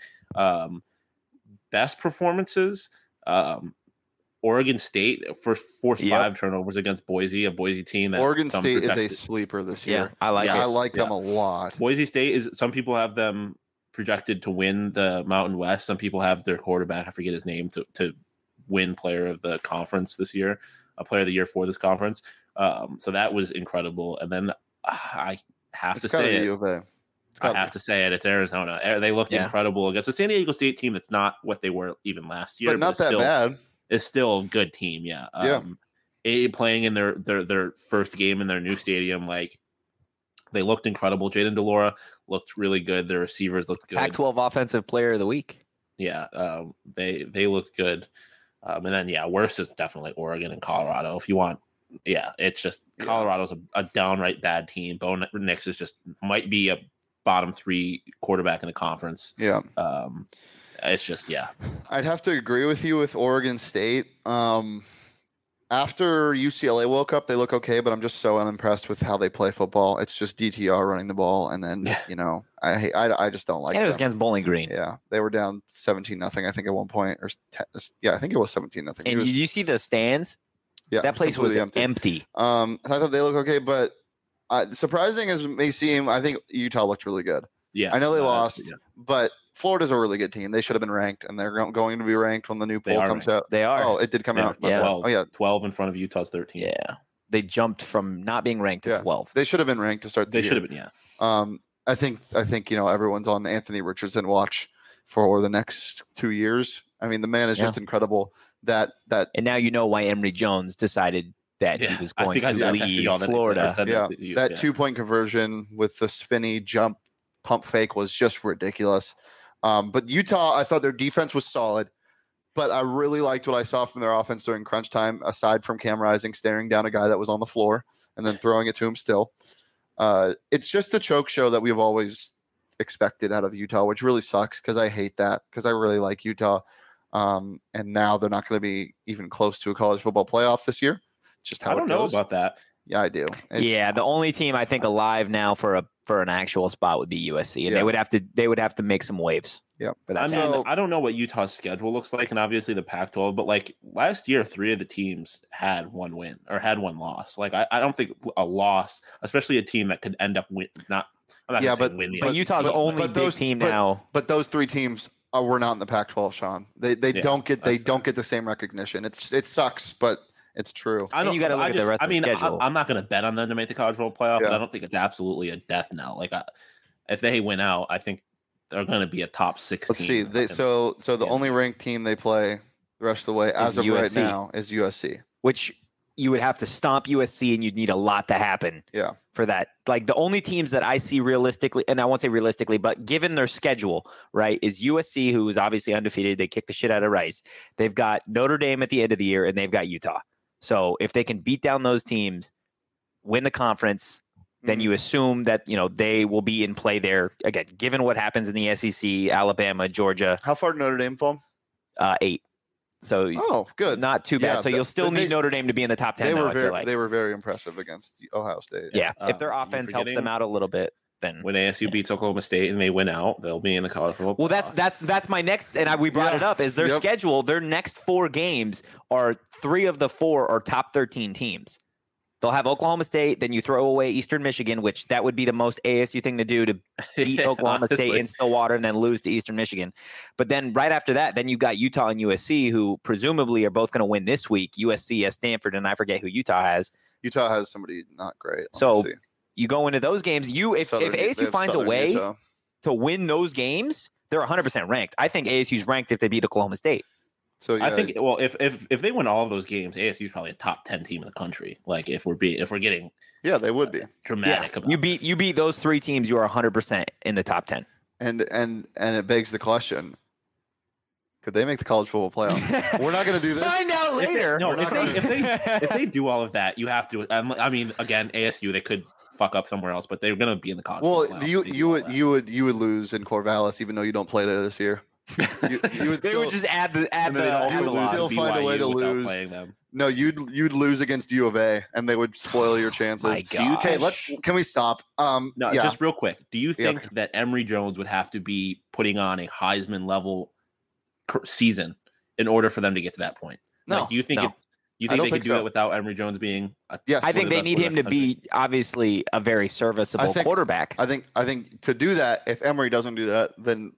Best performances, Oregon State forced 5 turnovers against Boise, a Boise team. That Oregon State is a sleeper this year. Yeah, I like it. I like them a lot. Boise State is. Some people have them projected to win the Mountain West. Some people have their quarterback, I forget his name, to win player of the conference this year, a player of the year for this conference. So that was incredible. And then I have to say it. It's Arizona. They looked incredible against the San Diego State team. That's not what they were even last year, but not that bad. It's still a good team. Yeah. Playing in their first game in their new stadium, like they looked incredible. Jayden DeLora looked really good. Their receivers looked good. Pac-12 Offensive Player of the Week. Yeah. They looked good. And then, worse is definitely Oregon and Colorado. If you want, it's just Colorado's a downright bad team. Bo Nix might be a bottom 3 quarterback in the conference. Yeah. It's just, I'd have to agree with you with Oregon State. After UCLA woke up, they look okay, but I'm just so unimpressed with how they play football. It's just DTR running the ball, and then I just don't like. And it was against Bowling Green. Yeah, they were down 17-0, I think, at one point, or I think it was 17-0. And did you see the stands? Yeah, that place was empty. I thought they look okay, but surprising as it may seem, I think Utah looked really good. Yeah, I know they lost, but Florida's a really good team. They should have been ranked, and they're going to be ranked when the new poll comes out. They are. Oh, it did come out. 12 in front of Utah's 13. Yeah, they jumped from not being ranked to 12. They should have been ranked to start the year. They should have been. Yeah. I think everyone's on Anthony Richardson watch for the next 2 years. I mean, the man is just incredible. That and now you know why Emory Jones decided that he was going to leave Florida. That 2-point conversion with the spinny jump pump fake was just ridiculous. But Utah, I thought their defense was solid, but I really liked what I saw from their offense during crunch time, aside from Cam Rising staring down a guy that was on the floor and then throwing it to him still. It's just the choke show that we've always expected out of Utah, which really sucks because I hate that because I really like Utah. And now they're not going to be even close to a college football playoff this year. Just how I don't know about that. Yeah, I do. The only team I think alive now for for an actual spot would be USC, and Yeah. they would have to make some waves. Yep. For that. I mean, I don't know what Utah's schedule looks like, and obviously the Pac-12, but like last year, 3 of the teams had one win or had one loss. Like I don't think a loss, especially a team that could end up win. I'm not Yeah, gonna say win. But Utah's only big team now. But those 3 teams were not in the Pac-12, Sean. They don't get the same recognition. It sucks, but it's true. I don't. You got to look at the rest of the schedule. I'm not going to bet on them to make the college football playoff, but I don't think it's absolutely a death knell. Like if they win out, I think they're going to be a top 16. Let's see. So the only ranked team they play the rest of the way as of USC. right now is USC, which you would have to stomp USC, and you'd need a lot to happen. Yeah. For that, like the only teams that I see realistically, and I won't say realistically, but given their schedule, right, is USC, who is obviously undefeated. They kick the shit out of Rice. They've got Notre Dame at the end of the year, and they've got Utah. So if they can beat down those teams, win the conference, then you assume that they will be in play there again. Given what happens in the SEC, Alabama, Georgia. How far did Notre Dame fall? 8. So good, not too bad. So you'll still need Notre Dame to be in the top 10. They were very impressive against Ohio State. Yeah, if their offense helps them out a little bit, then when ASU beats Oklahoma State and they win out, they'll be in the college football. Well, that's my next, and we brought it up. Is their schedule? Their next 4 games are 3 of the 4 are top 13 teams. They'll have Oklahoma State, then you throw away Eastern Michigan, which that would be the most ASU thing to do to beat Oklahoma State in Stillwater and then lose to Eastern Michigan. But then right after that, then you've got Utah and USC, who presumably are both going to win this week. USC has Stanford, and I forget who Utah has. Utah has somebody not great. So you go into those games. If ASU finds a way to win those games, they're 100% ranked. I think ASU's ranked if they beat Oklahoma State. So I think if they win all of those games, ASU is probably a top 10 team in the country. Like if we're getting they would be dramatic. Yeah. You beat those 3 teams, you are 100% in the top 10. And it begs the question: could they make the college football playoff? We're not going to do this. Find out later. If they do all of that, you have to. I mean, again, ASU they could fuck up somewhere else, but they're going to be in the college. Well, you would lose in Corvallis, even though you don't play there this year. You would just add the you would still find a way to lose. No, you'd lose against U of A, and they would spoil your chances. My God. Okay, can we stop? Just real quick. Do you think that Emory Jones would have to be putting on a Heisman level season in order for them to get to that point? No. Do you think they could do it without Emory Jones being? Yes, I think they need him to be obviously a very serviceable quarterback. I think to do that, if Emory doesn't do that, then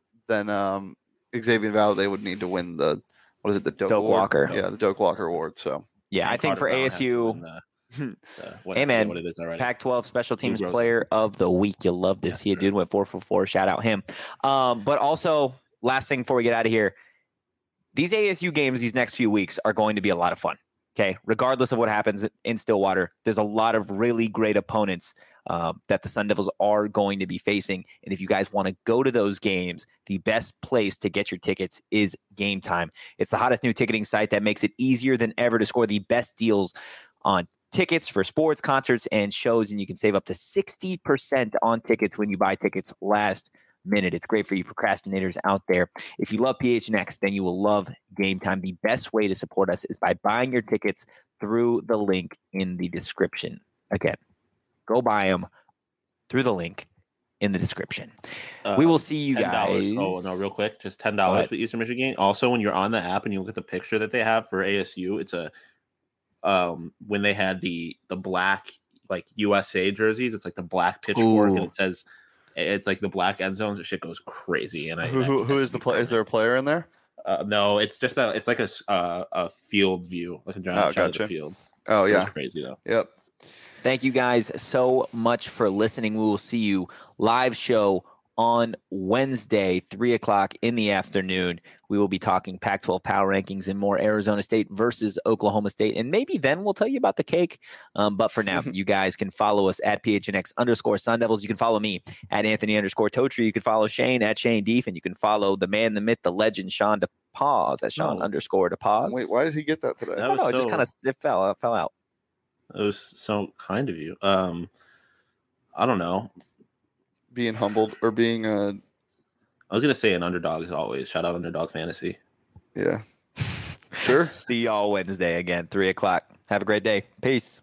Xavier Valade would need to win the Doak Walker. Yeah, the Doak Walker Award. So I think for ASU, hey man, what it is already. Pac-12 Special Teams Player of the Week. You'll love to see a dude went 4 for 4. Shout out him. But also, last thing before we get out of here, these ASU games these next few weeks are going to be a lot of fun. Okay, regardless of what happens in Stillwater, there's a lot of really great opponents that the Sun Devils are going to be facing. And if you guys want to go to those games, the best place to get your tickets is Game Time. It's the hottest new ticketing site that makes it easier than ever to score the best deals on tickets for sports, concerts, and shows. And you can save up to 60% on tickets when you buy tickets last minute. It's great for you procrastinators out there. If you love PHNX, then you will love Game Time. The best way to support us is by buying your tickets through the link in the description. Again, go buy them through the link in the description. We will see you guys. Oh, no, real quick. Just $10 for the Eastern Michigan game. Also, when you're on the app and you look at the picture that they have for ASU, it's when they had the black like USA jerseys, it's like the black pitchfork and it says it's like the black end zones. The shit goes crazy. And who is the player? Is there a player in there? No, it's just it's like a field view, like a giant shot of the field. Oh yeah, it's crazy though. Yep. Thank you guys so much for listening. We will see you live show on Wednesday, 3:00 in the afternoon. We will be talking Pac-12 power rankings and more Arizona State versus Oklahoma State. And maybe then we'll tell you about the cake. But for now, you guys can follow us at PHNX_Sun Devils. You can follow me at Anthony_Totri. You can follow Shane at Shane Deef. And you can follow the man, the myth, the legend, Sean DePause at Sean_DePause. Wait, why did he get that today? I don't know. It just kind of fell out. It was so kind of you. I don't know. Being humbled or being I was gonna say an underdog as always. Shout out Underdog Fantasy. Yeah. Sure. See y'all Wednesday again, 3:00. Have a great day. Peace.